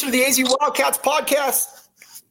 listening to the AZ Wildcats podcast.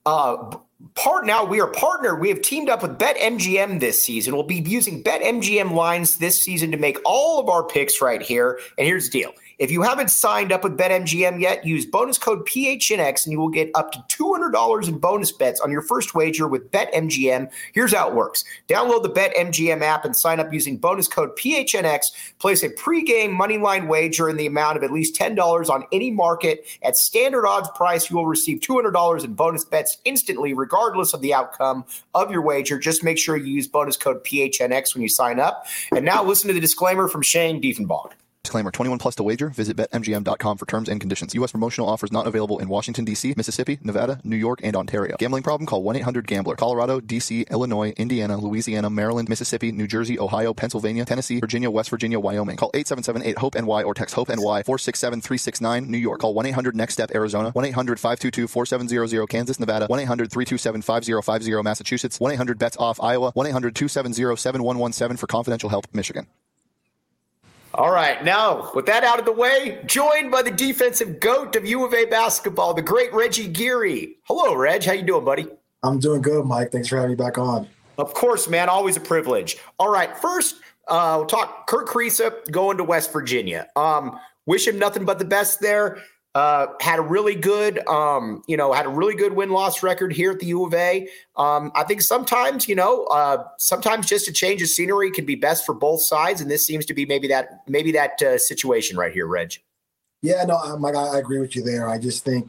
We are partnered. We have teamed up with BetMGM this season. We'll be using BetMGM lines this season to make all of our picks right here. And here's the deal. If you haven't signed up with BetMGM yet, use bonus code PHNX and you will get up to $200 in bonus bets on your first wager with BetMGM. Here's how it works. Download the BetMGM app and sign up using bonus code PHNX. Place a pregame moneyline wager in the amount of at least $10 on any market. At standard odds price, you will receive $200 in bonus bets instantly, regardless of the outcome of your wager. Just make sure you use bonus code PHNX when you sign up. And now listen to the disclaimer from Shane Diefenbach. Disclaimer, 21 plus to wager. Visit BetMGM.com for terms and conditions. U.S. promotional offers not available in Washington, D.C., Mississippi, Nevada, New York, and Ontario. Gambling problem? Call 1-800-GAMBLER. Colorado, D.C., Illinois, Indiana, Louisiana, Maryland, Mississippi, New Jersey, Ohio, Pennsylvania, Tennessee, Virginia, West Virginia, Wyoming. Call 877-8-HOPE-NY or text HOPE-NY 467-369. New York. Call 1-800-NEXT-STEP, Arizona. 1-800-522-4700, Kansas, Nevada. 1-800-327-5050, Massachusetts. 1-800-BETS-OFF, Iowa. 1-800-270-7117 for confidential help, Michigan. All right, now, with that out of the way, joined by the defensive GOAT of U of A basketball, the great Reggie Geary. Hello, Reg. How you doing, buddy? I'm doing good, Mike. Thanks for having me back on. Of course, man. Always a privilege. All right, first, we'll talk Kerr Kriisa going to West Virginia. Wish him nothing but the best there. Had a really good, win-loss record here at the U of A. I think sometimes just a change of scenery can be best for both sides, and this seems to be maybe that situation right here, Reg. Yeah, no, Mike, I agree with you there. I just think,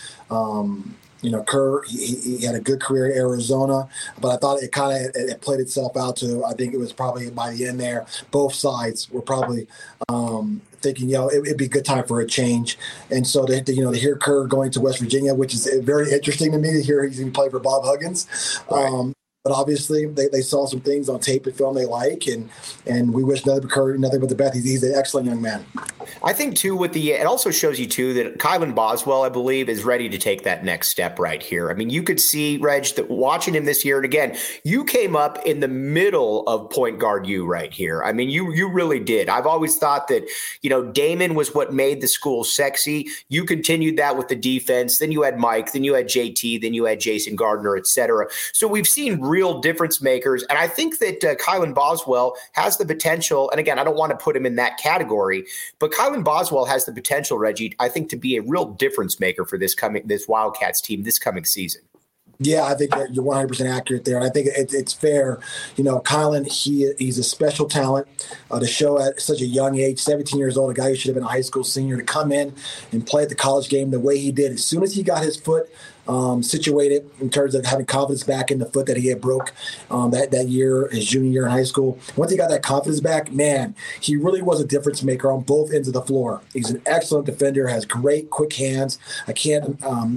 Kerr, he had a good career at Arizona, but I thought it played itself out to, I think it was probably by the end there, both sides were probably thinking, it'd be a good time for a change. And so to hear Kerr going to West Virginia, which is very interesting to me to hear he's going to play for Bob Huggins. Right. But obviously they saw some things on tape and film they like, and we wish nothing but the best. He's an excellent young man. I think too it also shows you too that Kylan Boswell, I believe, is ready to take that next step right here. I mean, you could see, Reg, that watching him this year, and again, you came up in the middle of point guard U right here. I mean, you really did. I've always thought that, Damon was what made the school sexy. You continued that with the defense. Then you had Mike, then you had JT, then you had Jason Gardner, et cetera. So we've seen real difference makers. And I think that Kylan Boswell has the potential, and again, I don't want to put him in that category, but Kylan Boswell has the potential, Reggie, I think, to be a real difference maker for this Wildcats team this coming season. Yeah, I think you're 100% accurate there. And I think it's fair. Kylan, he's a special talent to show at such a young age, 17 years old, a guy who should have been a high school senior, to come in and play at the college game the way he did. As soon as he got his foot situated in terms of having confidence back in the foot that he had broke that year, his junior year in high school. Once he got that confidence back, man, he really was a difference maker on both ends of the floor. He's an excellent defender, has great quick hands. I can't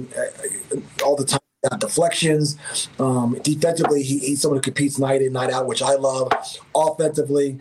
all the time. Deflections. Defensively, he's someone who competes night in, night out, which I love. Offensively,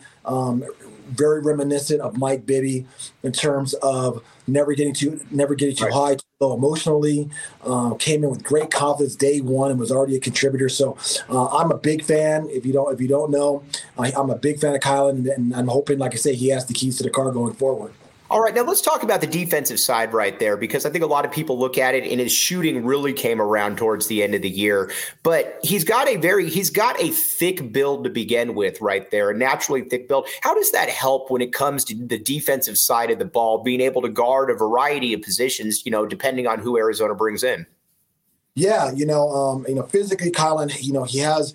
very reminiscent of Mike Bibby in terms of never getting too high, too low emotionally. Came in with great confidence day one and was already a contributor. So I'm a big fan. If you don't know, I'm a big fan of Kylan, and I'm hoping, like I say, he has the keys to the car going forward. All right, now let's talk about the defensive side right there, because I think a lot of people look at it and his shooting really came around towards the end of the year. But he's got a thick build to begin with right there, a naturally thick build. How does that help when it comes to the defensive side of the ball, being able to guard a variety of positions, depending on who Arizona brings in? Yeah, physically, Kylan, he has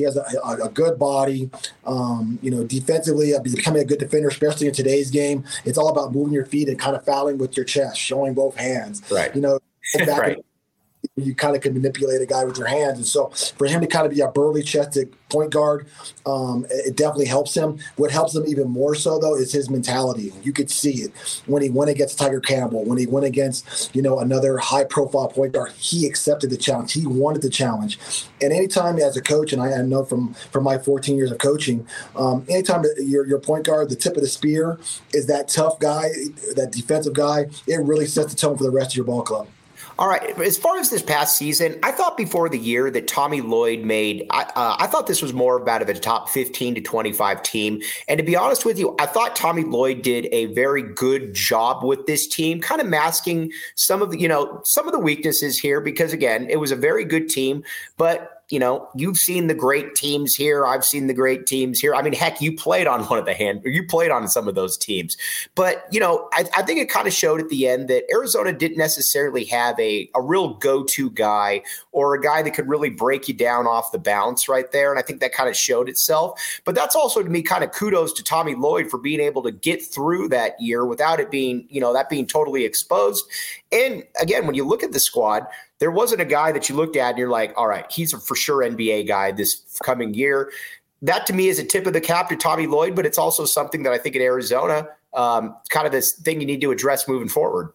a good body. Defensively, becoming a good defender, especially in today's game, it's all about moving your feet and kind of fouling with your chest, showing both hands. Right. Right. You kind of can manipulate a guy with your hands. And so for him to kind of be a burly chested point guard, it definitely helps him. What helps him even more so, though, is his mentality. You could see it when he went against Tiger Campbell, when he went against, another high profile point guard. He accepted the challenge. He wanted the challenge. And anytime as a coach, and I know from my 14 years of coaching, anytime your point guard, the tip of the spear, is that tough guy, that defensive guy, it really sets the tone for the rest of your ball club. All right. As far as this past season, I thought before the year that Tommy Lloyd made, I thought this was more about a top 15 to 25 team. And to be honest with you, I thought Tommy Lloyd did a very good job with this team, kind of masking some of the weaknesses here, because again, it was a very good team, but you've seen the great teams here. I've seen the great teams here. I mean, heck, you played on you played on some of those teams. But, I think it kind of showed at the end that Arizona didn't necessarily have a real go-to guy or a guy that could really break you down off the bounce right there. And I think that kind of showed itself. But that's also, to me, kind of kudos to Tommy Lloyd for being able to get through that year without it being, that being totally exposed. And again, when you look at the squad, there wasn't a guy that you looked at and you're like, all right, he's a for sure NBA guy this coming year. That to me is a tip of the cap to Tommy Lloyd, but it's also something that I think in Arizona, kind of this thing you need to address moving forward.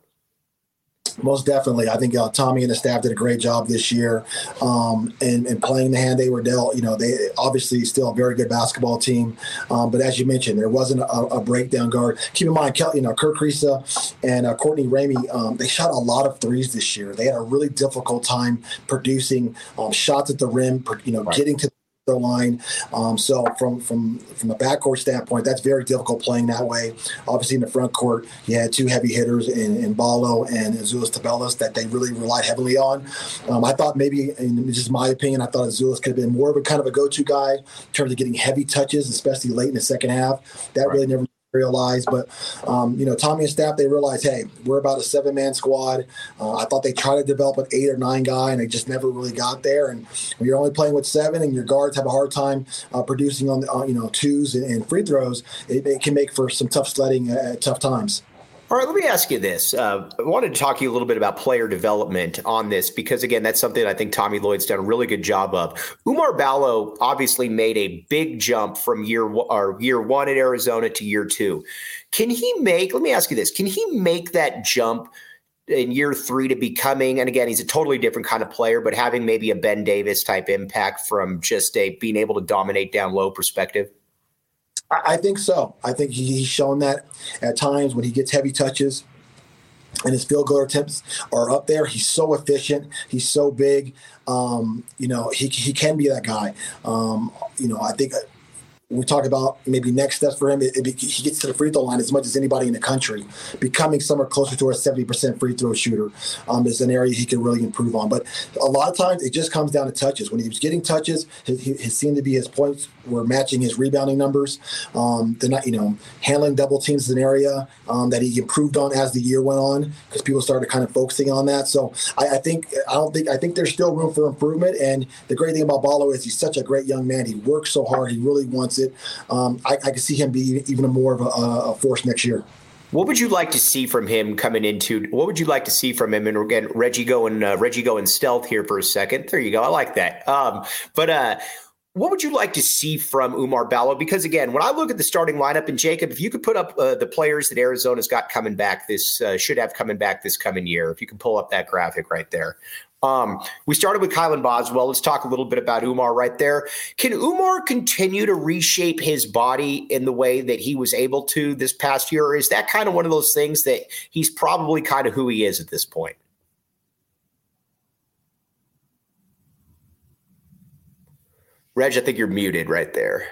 Most definitely. I think Tommy and the staff did a great job this year in playing the hand they were dealt. They obviously still a very good basketball team. But as you mentioned, there wasn't a breakdown guard. Keep in mind, Kirk Kriisa and Courtney Ramey, they shot a lot of threes this year. They had a really difficult time producing shots at the rim, right, getting to the line. So from a backcourt standpoint, that's very difficult playing that way. Obviously, in the front court, you had two heavy hitters in Ballo and Azuolas Tubelis that they really relied heavily on. I thought maybe, and this is my opinion, I thought Azuolas could have been more of a kind of a go-to guy in terms of getting heavy touches, especially late in the second half. That really never realized, but Tommy and staff, they realized, hey, we're about a 7-man squad. I thought they tried to develop an 8 or 9 guy, and they just never really got there. And when you're only playing with 7, and your guards have a hard time producing on twos and free throws, it can make for some tough sledding at tough times. All right, let me ask you this. I wanted to talk to you a little bit about player development on this because, again, that's something I think Tommy Lloyd's done a really good job of. Oumar Ballo obviously made a big jump from year one at Arizona to year 2. Let me ask you this, can he make that jump in year 3 to becoming, and again, he's a totally different kind of player, but having maybe a Ben Davis type impact from just being able to dominate down low perspective? I think so. I think he's shown that at times when he gets heavy touches and his field goal attempts are up there. He's so efficient. He's so big. He can be that guy. I think we talk about maybe next steps for him. He gets to the free throw line as much as anybody in the country. Becoming somewhere closer to a 70% free throw shooter is an area he can really improve on. But a lot of times it just comes down to touches. When he was getting touches, it seemed to be his points were matching his rebounding numbers. They're not, handling double teams is an area that he improved on as the year went on because people started kind of focusing on that. So I think there's still room for improvement. And the great thing about Ballo is he's such a great young man. He works so hard. He really wants it. I can see him be even more of a force next year. What would you like to see from him coming into? What would you like to see from him? And again, Reggie going stealth here for a second. There you go. I like that. What would you like to see from Oumar Ballo? Because again, when I look at the starting lineup, and Jacob, if you could put up the players that Arizona's got coming back should have coming back this coming year, if you can pull up that graphic right there. We started with Kylan Boswell. Let's talk a little bit about Oumar right there. Can Oumar continue to reshape his body in the way that he was able to this past year? Or is that kind of one of those things that he's probably kind of who he is at this point? Reg, I think you're muted right there.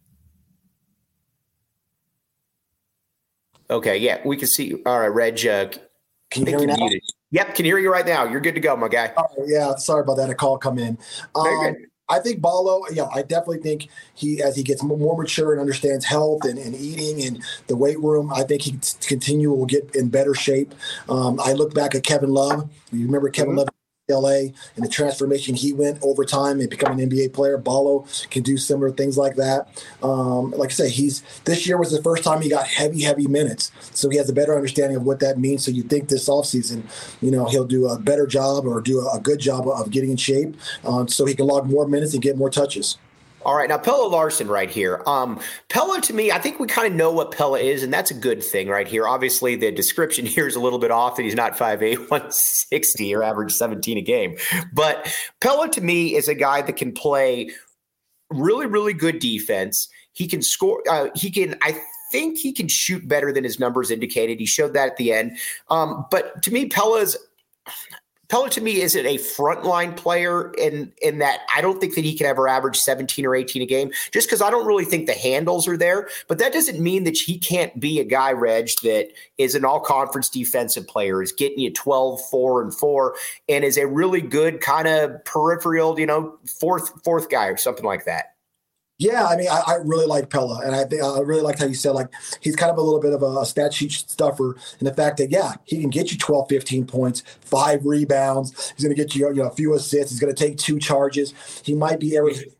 Okay, yeah, we can see you. All right, Reg, can you hear me now? Muted. Yep, can hear you right now. You're good to go, my guy. Yeah, sorry about that. A call come in. I think Ballo, I definitely think as he gets more mature and understands health and eating and the weight room, I think he will get in better shape. I look back at Kevin Love. You remember Kevin Love? LA and the transformation he went over time and becoming an NBA player. Ballo can do similar things like that. Like I say, this year was the first time he got heavy minutes, so he has a better understanding of what that means. So you think this offseason, he'll do a better job or do a good job of getting in shape, so he can log more minutes and get more touches. All right, now Pelle Larsson right here. Pelle, to me, I think we kind of know what Pelle is, and that's a good thing right here. Obviously, the description here is a little bit off that he's not 5'8", 160 or average 17 a game. But Pelle, to me, is a guy that can play really, really good defense. He can score. I think he can shoot better than his numbers indicated. He showed that at the end. But to me, Pelle Pella to me isn't a frontline player in that I don't think that he can ever average 17 or 18 a game just because I don't really think the handles are there. But that doesn't mean that he can't be a guy, Reg, that is an all-conference defensive player, is getting you 12, 4, and 4, and is a really good kind of peripheral, fourth guy or something like that. Yeah, I mean, I really like Pella, and I think I really liked how you said, like, he's kind of a little bit of a stat sheet stuffer in the fact that, yeah, he can get you 12, 15 points, 5 rebounds. He's going to get you, a few assists. He's going to take 2 charges. He might be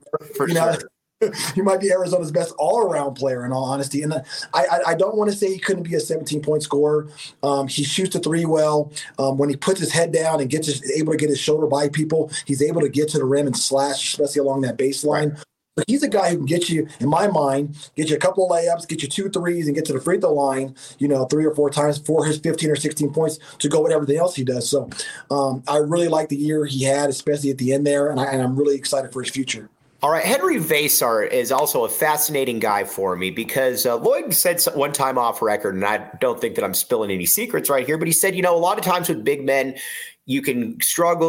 he might be Arizona's best all-around player, in all honesty. And I don't want to say he couldn't be a 17-point scorer. He shoots the 3 well. When he puts his head down and able to get his shoulder by people, he's able to get to the rim and slash, especially along that baseline. But he's a guy who can get you, in my mind, get you a couple of layups, get you 2 threes, and get to the free throw line, 3 or 4 times for his 15 or 16 points to go with everything else he does. So I really like the year he had, especially at the end there, and I'm really excited for his future. All right, Henry Vassar is also a fascinating guy for me because Lloyd said one time off record, and I don't think that I'm spilling any secrets right here, but he said, a lot of times with big men, you can struggle,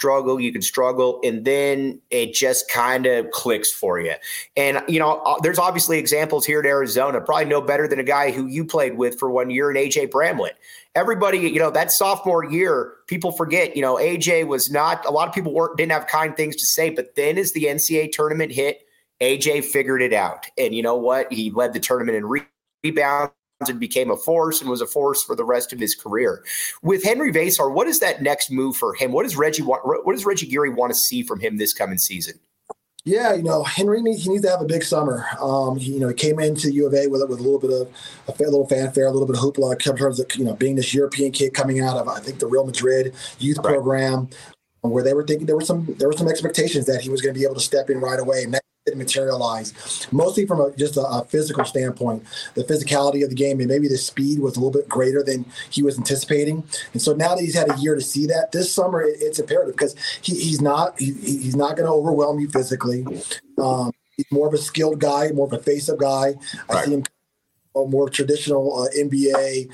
and then it just kind of clicks for you. And, there's obviously examples here in Arizona, probably no better than a guy who you played with for 1 year in A.J. Bramlett. Everybody, that sophomore year, people forget, AJ was not, a lot of people didn't have kind things to say, but then as the NCAA tournament hit, AJ figured it out. And you know what? He led the tournament in rebounds and became a force and was a force for the rest of his career. With Henry Vassar, what is that next move for him? What does Reggie Geary want to see from him this coming season? Yeah, Henry needs to have a big summer. He came into U of A with a little bit of a little fanfare, a little bit of hoopla in terms of being this European kid coming out of, I think, the Real Madrid youth program, where they were thinking there were some expectations that he was going to be able to step in right away, and that didn't materialize. Mostly from just a physical standpoint, the physicality of the game, and maybe the speed was a little bit greater than he was anticipating. And so now that he's had a year to see that, this summer it's imperative because he's not going to overwhelm you physically. He's more of a skilled guy, more of a face-up guy. I see him a more traditional NBA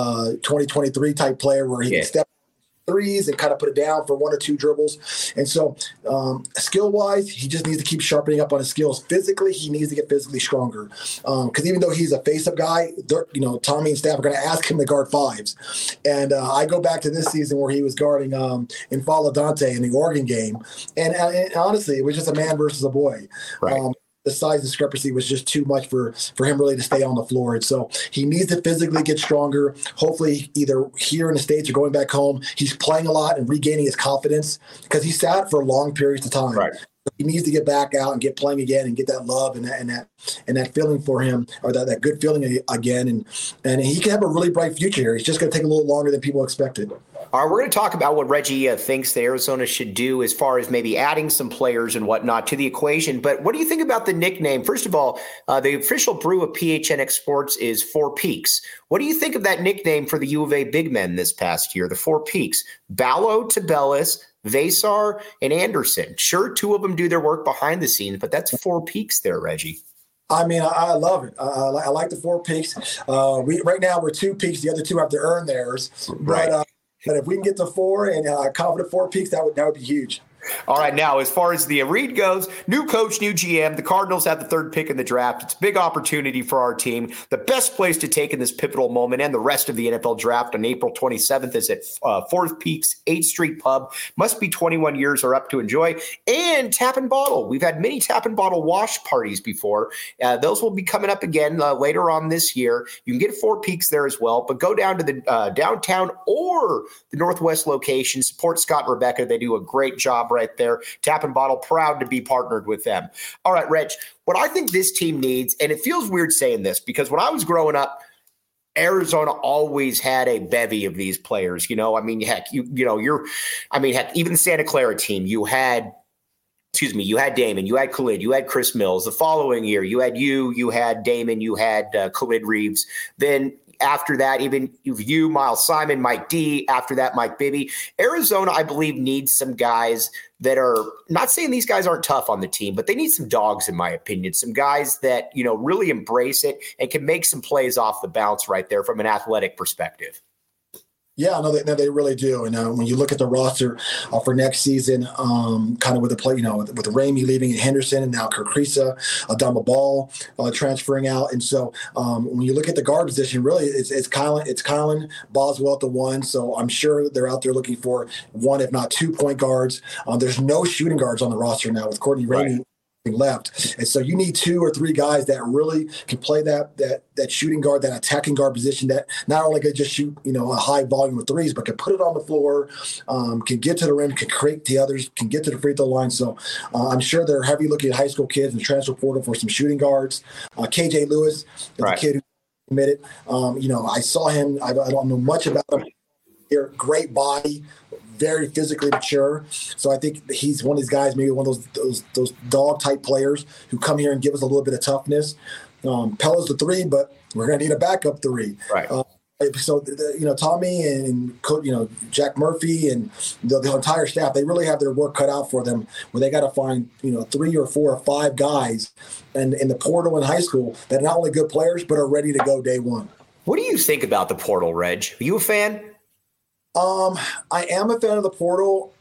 2023 type player where he can step threes and kind of put it down for 1 or 2 dribbles. And so skill-wise, he just needs to keep sharpening up on his skills. Physically, he needs to get physically stronger. Because even though he's a face-up guy, Tommy and staff are going to ask him to guard 5s. And I go back to this season where he was guarding N'Faly Dante in the Oregon game. And honestly, it was just a man versus a boy. Right. The size discrepancy was just too much for him really to stay on the floor. And so he needs to physically get stronger. Hopefully either here in the States or going back home, he's playing a lot and regaining his confidence because he sat for long periods of time. Right. He needs to get back out and get playing again and get that love and that feeling for him, or that good feeling again. And he can have a really bright future here. It's just going to take a little longer than people expected. All right, we're going to talk about what Reggie thinks that Arizona should do as far as maybe adding some players and whatnot to the equation. But what do you think about the nickname? First of all, the official brew of PHNX Sports is Four Peaks. What do you think of that nickname for the U of A big men this past year, the Four Peaks? Ballo, Tubelis, Vassar, and Anderson. Sure, 2 of them do their work behind the scenes, but that's 4 peaks there, Reggie. I mean, I love it. I like the 4 peaks. Right now we're 2 peaks. The other 2 have to earn theirs. Right. But if we can get to 4 and confident 4 peaks, that would be huge. All right, now, as far as the read goes, new coach, new GM. The Cardinals have the 3rd pick in the draft. It's a big opportunity for our team. The best place to take in this pivotal moment and the rest of the NFL draft on April 27th is at 4th Peaks 8th Street Pub. Must be 21 years or up to enjoy. And Tap and Bottle. We've had many Tap and Bottle wash parties before. Those will be coming up again later on this year. You can get 4 Peaks there as well, but go down to the downtown or the Northwest location. Support Scott and Rebecca. They do a great job right there. Tap and Bottle, proud to be partnered with them. All right, Reg, what I think this team needs, and it feels weird saying this because when I was growing up, Arizona always had a bevy of these players. I mean, heck, even the Santa Clara team, you had Damon, you had Khalid, you had Chris Mills. The following year, you had Damon, you had Khalid Reeves. Then after that, even you, Miles Simon, Mike D. After that, Mike Bibby. Arizona, I believe, needs some guys that are not saying these guys aren't tough on the team, but they need some dogs, in my opinion. Some guys that, really embrace it and can make some plays off the bounce right there from an athletic perspective. Yeah, no, they really do. And when you look at the roster for next season, kind of with the play, with Ramey leaving and Henderson, and now Kirkrisa, Adama Ball transferring out, and so when you look at the guard position, really it's Kylan Boswell at the one. So I'm sure they're out there looking for one, if not 2 point guards. There's no shooting guards on the roster now with Courtney Ramey. Right. Left, and so you need 2 or 3 guys that really can play that shooting guard, that attacking guard position, that not only can just shoot a high volume of threes, but can put it on the floor, can get to the rim, can create the others, can get to the free throw line. So I'm sure they're heavy looking at high school kids in the transfer portal for some shooting guards. KJ Lewis is the kid who committed. I saw him. I don't know much about him. Great body. Very physically mature, so I think he's one of these guys, maybe one of those dog type players who come here and give us a little bit of toughness. Pella's the 3, but we're going to need a backup 3. Right. So Tommy and Jack Murphy and the entire staff, they really have their work cut out for them, where they got to find 3 or 4 or 5 guys and in the portal in high school that are not only good players but are ready to go day one. What do you think about the portal, Reg? Are you a fan? I am a fan of the portal,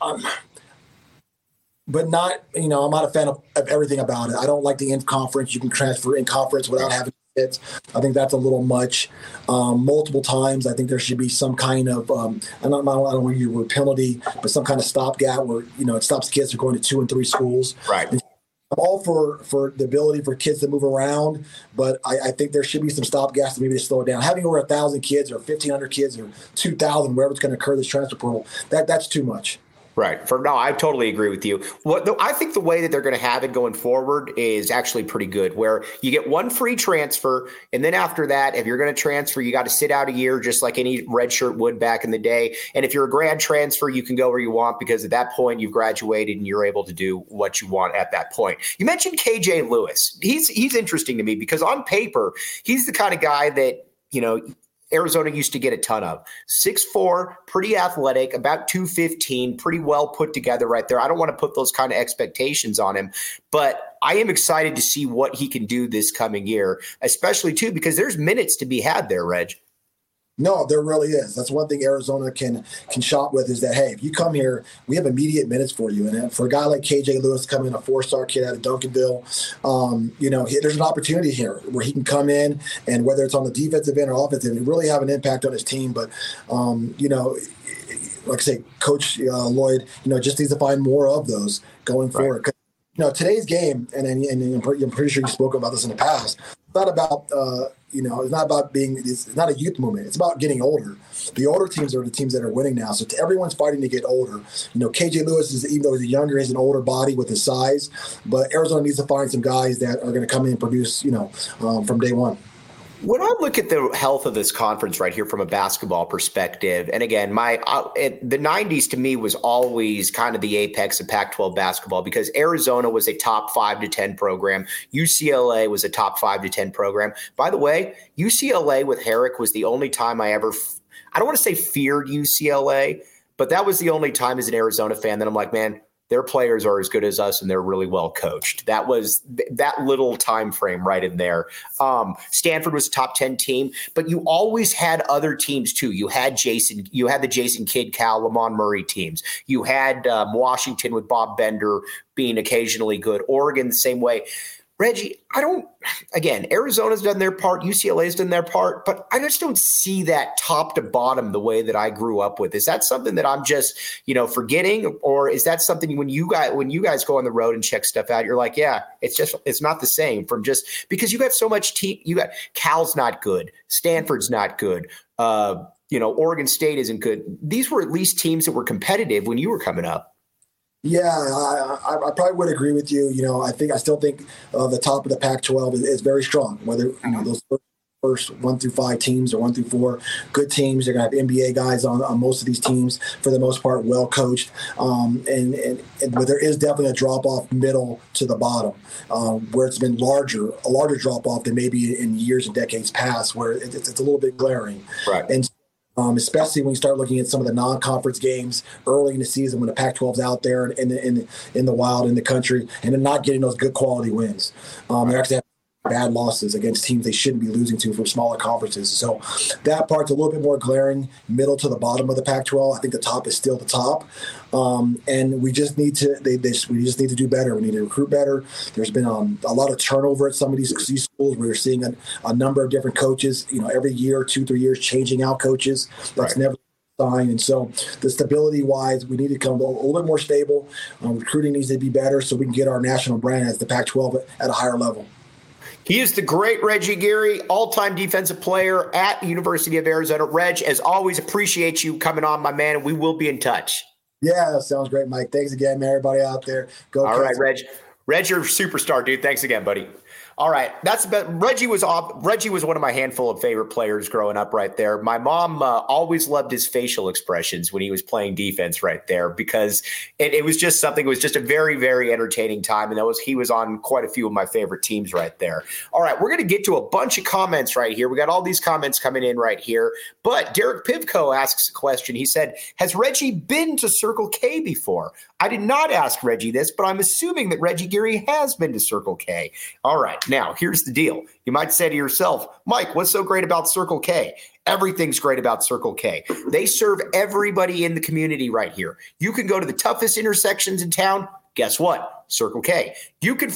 but not, I'm not a fan of everything about it. I don't like the in-conference. You can transfer in-conference without having hits. I think that's a little much. Multiple times, I think there should be some kind of, I don't want to use the word penalty, but some kind of stopgap where, it stops kids from going to 2 and 3 schools. Right. And I'm all for the ability for kids to move around, but I think there should be some stopgaps to maybe slow it down. Having over 1,000 kids or 1,500 kids or 2,000, wherever it's going to occur this transfer portal, that's too much. Right. I totally agree with you. I think the way that they're going to have it going forward is actually pretty good, where you get 1 free transfer, and then after that, if you're going to transfer, you got to sit out a year just like any red shirt would back in the day. And if you're a grad transfer, you can go where you want, because at that point you've graduated and you're able to do what you want at that point. You mentioned KJ Lewis. He's interesting to me because on paper, he's the kind of guy that, Arizona used to get a ton of. 6'4", pretty athletic, about 215, pretty well put together right there. I don't want to put those kind of expectations on him, but I am excited to see what he can do this coming year, especially too, because there's minutes to be had there, Reg. No, there really is. That's one thing Arizona can shop with, is that, hey, if you come here, we have immediate minutes for you. And for a guy like KJ Lewis coming, a 4-star kid out of Duncanville, there's an opportunity here where he can come in, and whether it's on the defensive end or offensive end, really have an impact on his team. But, like I say, Coach Lloyd, just needs to find more of those going forward. Today's game, and I'm pretty sure you spoke about this in the past, it's not about it's not about it's not a youth movement. It's about getting older. The older teams are the teams that are winning now. So everyone's fighting to get older. KJ Lewis is, even though he's younger, he's an older body with his size. But Arizona needs to find some guys that are going to come in and produce, from day one. When I look at the health of this conference right here from a basketball perspective, and again, the 90s to me was always kind of the apex of Pac-12 basketball, because Arizona was a top 5 to 10 program. UCLA was a top 5 to 10 program. By the way, UCLA with Herrick was the only time I don't want to say feared UCLA, but that was the only time as an Arizona fan that I'm like, man, their players are as good as us, and they're really well coached. That was that little time frame right in there. Stanford was a top 10 team, but you always had other teams too. You had the Jason Kidd, Cal, Lamont Murray teams. You had Washington with Bob Bender being occasionally good. Oregon the same way. Reggie, Arizona's done their part, UCLA's done their part, but I just don't see that top to bottom the way that I grew up with. Is that something that I'm just, forgetting, or is that something when you guys go on the road and check stuff out, you're like, yeah, it's not the same, from just because you got so much team. You got Cal's not good, Stanford's not good, Oregon State isn't good. These were at least teams that were competitive when you were coming up. Yeah, I probably would agree with you. I still think the top of the Pac-12 is very strong. Whether those first 1 through 5 teams or 1 through 4 good teams, they're gonna have NBA guys on most of these teams for the most part, well coached. But there is definitely a drop off middle to the bottom, where it's been a larger drop off than maybe in years and decades past, where it's a little bit glaring. Right. And especially when you start looking at some of the non-conference games early in the season when the Pac-12's out there in the wild in the country, and then not getting those good quality wins. They actually have bad losses against teams they shouldn't be losing to from smaller conferences. So that part's a little bit more glaring, middle to the bottom of the Pac-12. I think the top is still the top. And we just need to we just need to do better. We need to recruit better. There's been a lot of turnover at some of these schools. We're seeing a number of different coaches, every year, 2-3 years, changing out coaches. That's never sign. And so the stability wise, we need to come a little bit more stable. Recruiting needs to be better so we can get our national brand as the Pac-12 at a higher level. He is the great Reggie Geary, all-time defensive player at the University of Arizona. Reg, as always, appreciate you coming on, my man, and we will be in touch. Yeah, that sounds great, Mike. Thanks again, man, everybody out there. Go. All right, Reg. Reg, you're a superstar, dude. Thanks again, buddy. All right, that's about Reggie was one of my handful of favorite players growing up right there. My mom always loved his facial expressions when he was playing defense right there because it was just something. It was just a very, very entertaining time, and he was on quite a few of my favorite teams right there. All right, we're going to get to a bunch of comments right here. We got all these comments coming in right here, but Derek Pivko asks a question. He said, "Has Reggie been to Circle K before?" I did not ask Reggie this, but I'm assuming that Reggie Geary has been to Circle K. All right. Now, here's the deal. You might say to yourself, Mike, what's so great about Circle K? Everything's great about Circle K. They serve everybody in the community right here. You can go to the toughest intersections in town. Guess what? Circle K. You can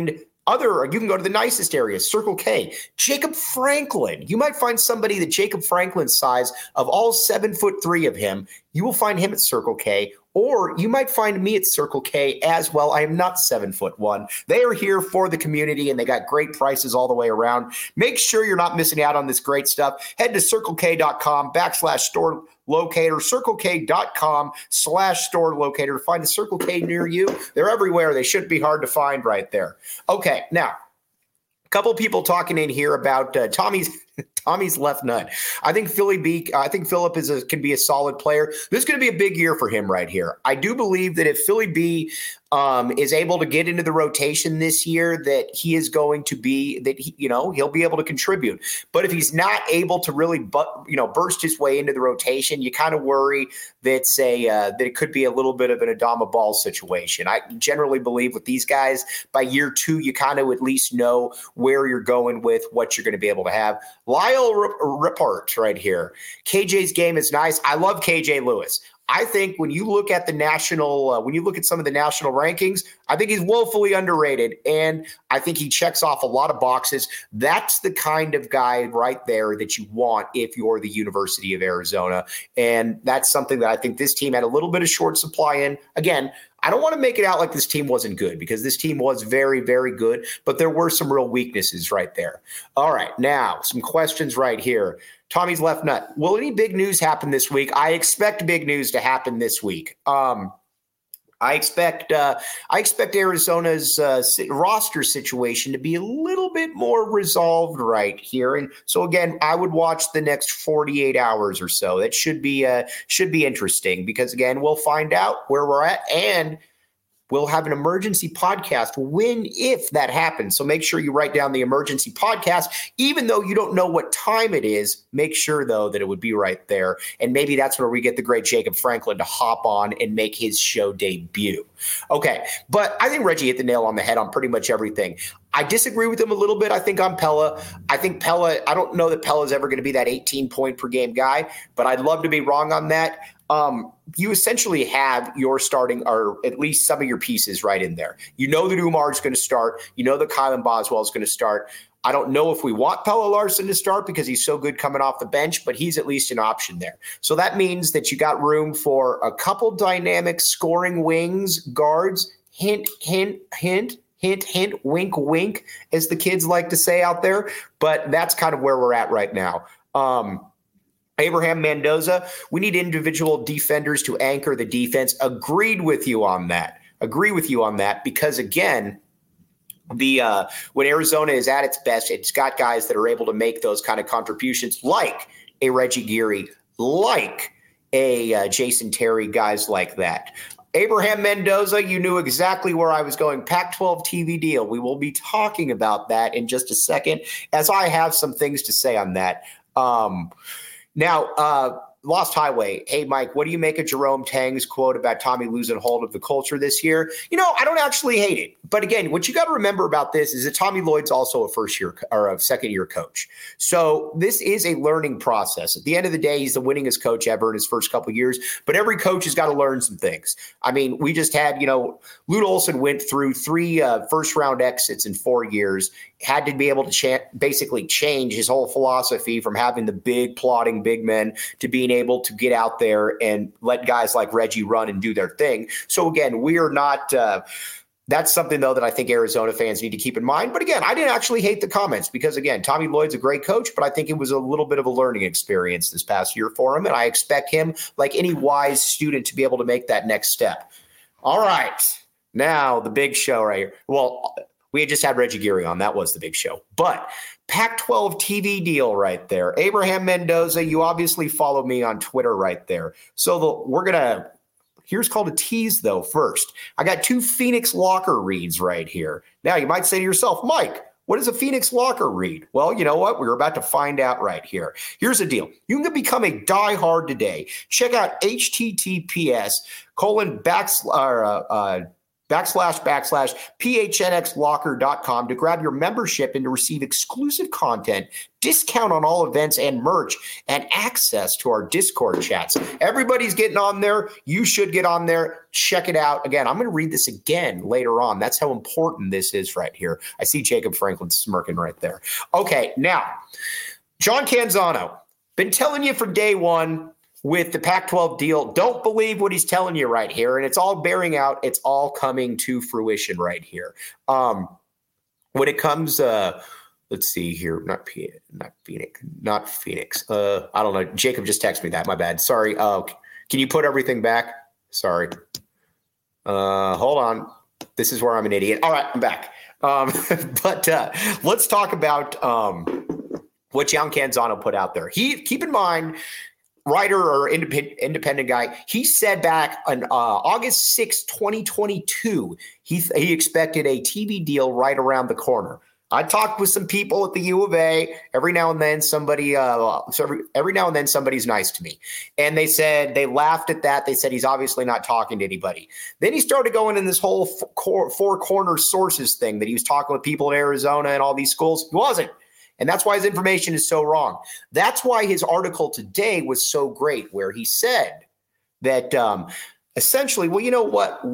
go to the nicest areas, Circle K. Jacob Franklin. You might find somebody that Jacob Franklin's size of all 7'3" of him. You will find him at Circle K. Or you might find me at Circle K as well. I am not 7'1". They are here for the community, and they got great prices all the way around. Make sure you're not missing out on this great stuff. Head to circlek.com/store locator, circlek.com/store locator to find a Circle K near you. They're everywhere. They shouldn't be hard to find right there. Okay, now, a couple people talking in here about Tommy's left nut. I think Philip can be a solid player. This is going to be a big year for him right here. I do believe that if Philly B is able to get into the rotation this year, that he is going to be he'll be able to contribute. But if he's not able to really burst his way into the rotation, you kind of worry that it could be a little bit of an Adama Ball situation. I generally believe with these guys, by year 2, you kind of at least know where you're going with what you're going to be able to have. Lyle Rippart right here. KJ's game is nice. I love KJ Lewis. I think when you look at some of the national rankings, I think he's woefully underrated, and I think he checks off a lot of boxes. That's the kind of guy right there that you want if you're the University of Arizona, and that's something that I think this team had a little bit of short supply in. Again, I don't want to make it out like this team wasn't good because this team was very, very good, but there were some real weaknesses right there. All right, now some questions right here. Tommy's left nut. Will any big news happen this week? I expect big news to happen this week. I expect Arizona's roster situation to be a little bit more resolved right here, and so again, I would watch the next 48 hours or so. That should be interesting because again, we'll find out where we're at, and we'll have an emergency podcast if that happens. So make sure you write down the emergency podcast, even though you don't know what time it is. Make sure, though, that it would be right there. And maybe that's where we get the great Jacob Franklin to hop on and make his show debut. Okay, but I think Reggie hit the nail on the head on pretty much everything. I disagree with him a little bit, I think, on Pella. I don't know that Pella's ever going to be that 18-point per game guy, but I'd love to be wrong on that. You essentially have your starting, or at least some of your pieces right in there. You know that Umar's going to start. You know that Kylan Boswell is going to start. I don't know if we want Pella Larson to start because he's so good coming off the bench, but he's at least an option there. So that means that you got room for a couple dynamic scoring wings, guards, hint, hint, hint, hint, hint, wink, wink, as the kids like to say out there. But that's kind of where we're at right now. Abraham Mendoza, we need individual defenders to anchor the defense. Agreed with you on that because, again, when Arizona is at its best, it's got guys that are able to make those kind of contributions, like a Reggie Geary, like a Jason Terry, guys like that. Abraham Mendoza, you knew exactly where I was going. Pac-12 TV deal. We will be talking about that in just a second, as I have some things to say on that. Now, Lost Highway. Hey, Mike, what do you make of Jerome Tang's quote about Tommy losing hold of the culture this year? I don't actually hate it. But again, what you got to remember about this is that Tommy Lloyd's also a first-year or a second-year coach. So this is a learning process. At the end of the day, he's the winningest coach ever in his first couple of years. But every coach has got to learn some things. I mean, we just had, Lute Olson went through 3 first-round exits in 4 years, had to be able to basically change his whole philosophy from having the big, plotting big men to being able to get out there and let guys like Reggie run and do their thing. So again, we are not that's something, though, that I think Arizona fans need to keep in mind. But again, I didn't actually hate the comments because, again, Tommy Lloyd's a great coach, but I think it was a little bit of a learning experience this past year for him. And I expect him, like any wise student, to be able to make that next step. All right. Now, the big show right here. Well, we had just had Reggie Geary on. That was the big show. But Pac-12 TV deal right there. Abraham Mendoza, you obviously follow me on Twitter right there. So we're going to – here's called a tease, though, first. I got 2 Phoenix Locker reads right here. Now, you might say to yourself, Mike, what is a Phoenix Locker read? Well, you know what? We're about to find out right here. Here's the deal. You can become a diehard today. Check out https://phnxlocker.com to grab your membership and to receive exclusive content, discount on all events and merch, and access to our Discord chats. Everybody's getting on there. You should get on there. Check it out. Again, I'm going to read this again later on. That's how important this is right here. I see Jacob Franklin smirking right there. Okay, now, John Canzano, been telling you from day one with the Pac-12 deal, don't believe what he's telling you right here. And it's all bearing out. It's all coming to fruition right here. When it comes, let's see here, not Phoenix. I don't know. Jacob just texted me that. My bad. Sorry. Can you put everything back? Sorry. Hold on. This is where I'm an idiot. All right, I'm back. But let's talk about what John Canzano put out there. Keep in mind, writer or independent guy, he said back on August 6, 2022, he expected a TV deal right around the corner. I talked with some people at the U of A. Every now and then somebody's nice to me. And they said, they laughed at that. They said he's obviously not talking to anybody. Then he started going in this whole four corner sources thing that he was talking with people in Arizona and all these schools. He wasn't. And that's why his information is so wrong. That's why his article today was so great, where he said that essentially, well, you know what?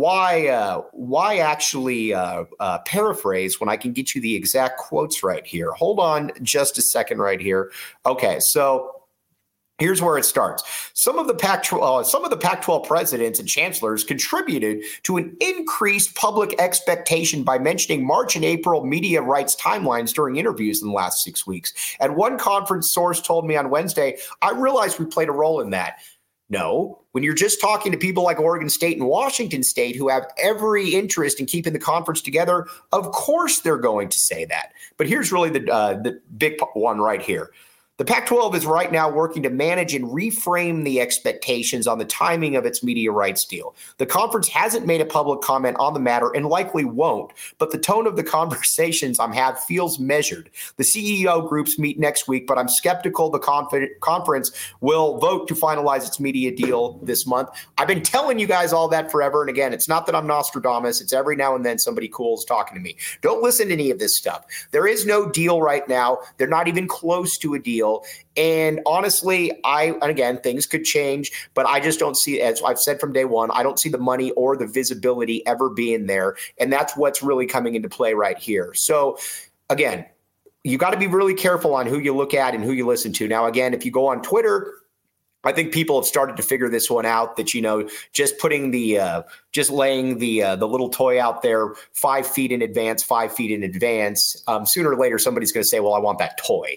Why actually paraphrase when I can get you the exact quotes right here? Hold on just a second right here. Okay, so here's where it starts. Some of the Pac-12 presidents and chancellors contributed to an increased public expectation by mentioning March and April media rights timelines during interviews in the last 6 weeks. At one conference source told me on Wednesday, I realized we played a role in that. No, when you're just talking to people like Oregon State and Washington State who have every interest in keeping the conference together, of course they're going to say that. But here's really the big one right here. The Pac-12 is right now working to manage and reframe the expectations on the timing of its media rights deal. The conference hasn't made a public comment on the matter and likely won't, but the tone of the conversations I'm having feels measured. The CEO groups meet next week, but I'm skeptical the conference will vote to finalize its media deal this month. I've been telling you guys all that forever, and again, it's not that I'm Nostradamus. It's every now and then somebody cool is talking to me. Don't listen to any of this stuff. There is no deal right now. They're not even close to a deal. And honestly, again, things could change, but I just don't see, as I've said from day one, I don't see the money or the visibility ever being there. And that's what's really coming into play right here. So again, you got to be really careful on who you look at and who you listen to. Now, again, if you go on Twitter, I think people have started to figure this one out, that, just putting just laying the little toy out there 5 feet in advance, sooner or later, somebody's going to say, well, I want that toy.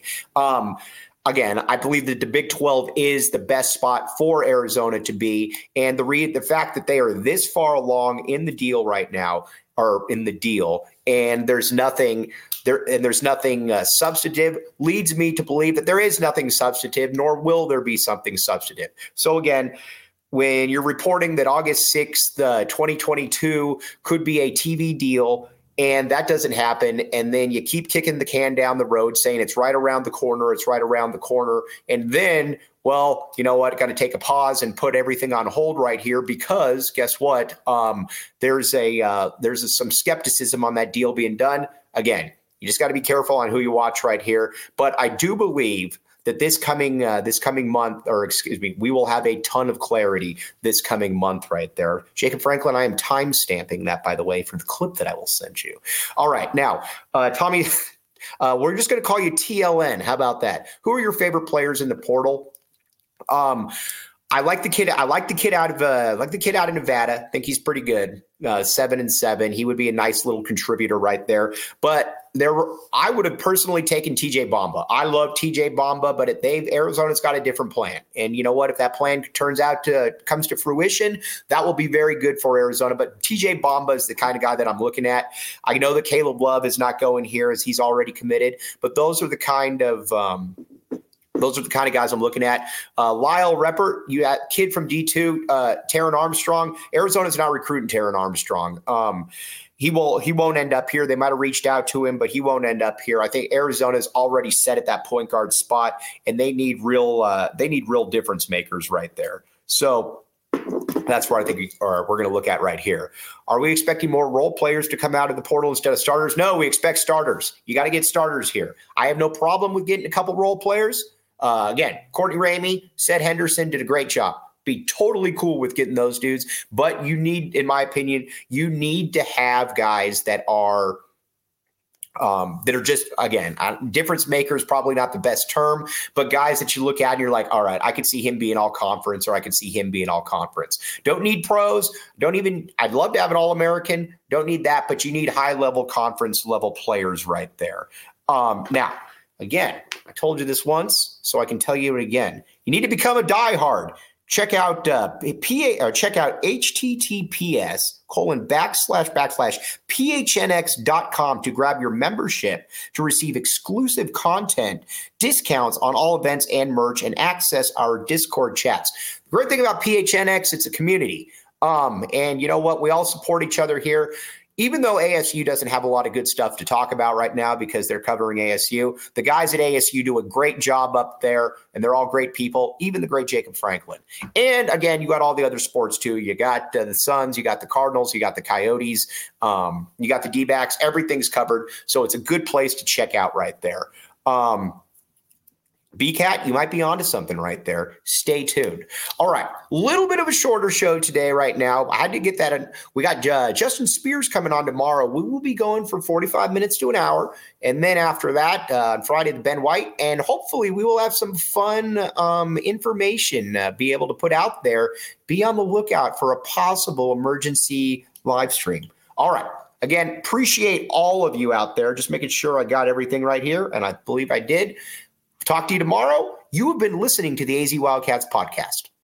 Again, I believe that the Big 12 is the best spot for Arizona to be. And the fact that they are this far along in the deal right now, and there's nothing substantive, leads me to believe that there is nothing substantive, nor will there be something substantive. So again, when you're reporting that August 6th, 2022 could be a TV deal, and that doesn't happen, and then you keep kicking the can down the road saying it's right around the corner, and then Well, you know what? Got to take a pause and put everything on hold right here because guess what? There's some skepticism on that deal being done. Again, you just got to be careful on who you watch right here. But I do believe that this coming month, or excuse me, we will have a ton of clarity this coming month right there. Jacob Franklin, I am time stamping that, by the way, for the clip that I will send you. All right, now, Tommy, we're just going to call you TLN. How about that? Who are your favorite players in the portal? I like the kid. I like the kid out of Nevada. I think he's pretty good. 7-7. He would be a nice little contributor right there. But I would have personally taken TJ Bamba. I love TJ Bamba, but Arizona's got a different plan. And you know what? If that plan comes to fruition, that will be very good for Arizona. But TJ Bamba is the kind of guy that I'm looking at. I know that Caleb Love is not going here as he's already committed, but those are the kind of guys I'm looking at. Lyle Reppert, you got kid from D2, Taron Armstrong. Arizona's not recruiting Taron Armstrong. He won't end up here. They might have reached out to him, but he won't end up here. I think Arizona's already set at that point guard spot, and they need real difference makers right there. So that's what I think we're going to look at right here. Are we expecting more role players to come out of the portal instead of starters? No, we expect starters. You got to get starters here. I have no problem with getting a couple role players. Again, Courtney Ramey, Seth Henderson did a great job. Be totally cool with getting those dudes. But you need, in my opinion, you need to have guys that are just, again, difference makers, probably not the best term, but guys that you look at and you're like, all right, I could see him being all conference, or I could see him being all conference. Don't need pros. I'd love to have an All-American. Don't need that, but you need high-level conference level players right there. Now, again, I told you this once, so I can tell you it again. You need to become a diehard. Check out https://phnx.com to grab your membership to receive exclusive content, discounts on all events and merch, and access our Discord chats. The great thing about PHNX, it's a community. And you know what? We all support each other here. Even though ASU doesn't have a lot of good stuff to talk about right now because they're covering ASU, the guys at ASU do a great job up there, and they're all great people, even the great Jacob Franklin. And again, you got all the other sports too. You got the Suns, you got the Cardinals, you got the Coyotes, you got the D-backs. Everything's covered, so it's a good place to check out right there. BCAT, you might be onto something right there. Stay tuned. All right. Little bit of a shorter show today right now. I had to get that in. We got Justin Spears coming on tomorrow. We will be going from 45 minutes to an hour. And then after that, on Friday, the Ben White. And hopefully we will have some fun information be able to put out there. Be on the lookout for a possible emergency live stream. All right. Again, appreciate all of you out there. Just making sure I got everything right here. And I believe I did. Talk to you tomorrow. You have been listening to the AZ Wildcats podcast.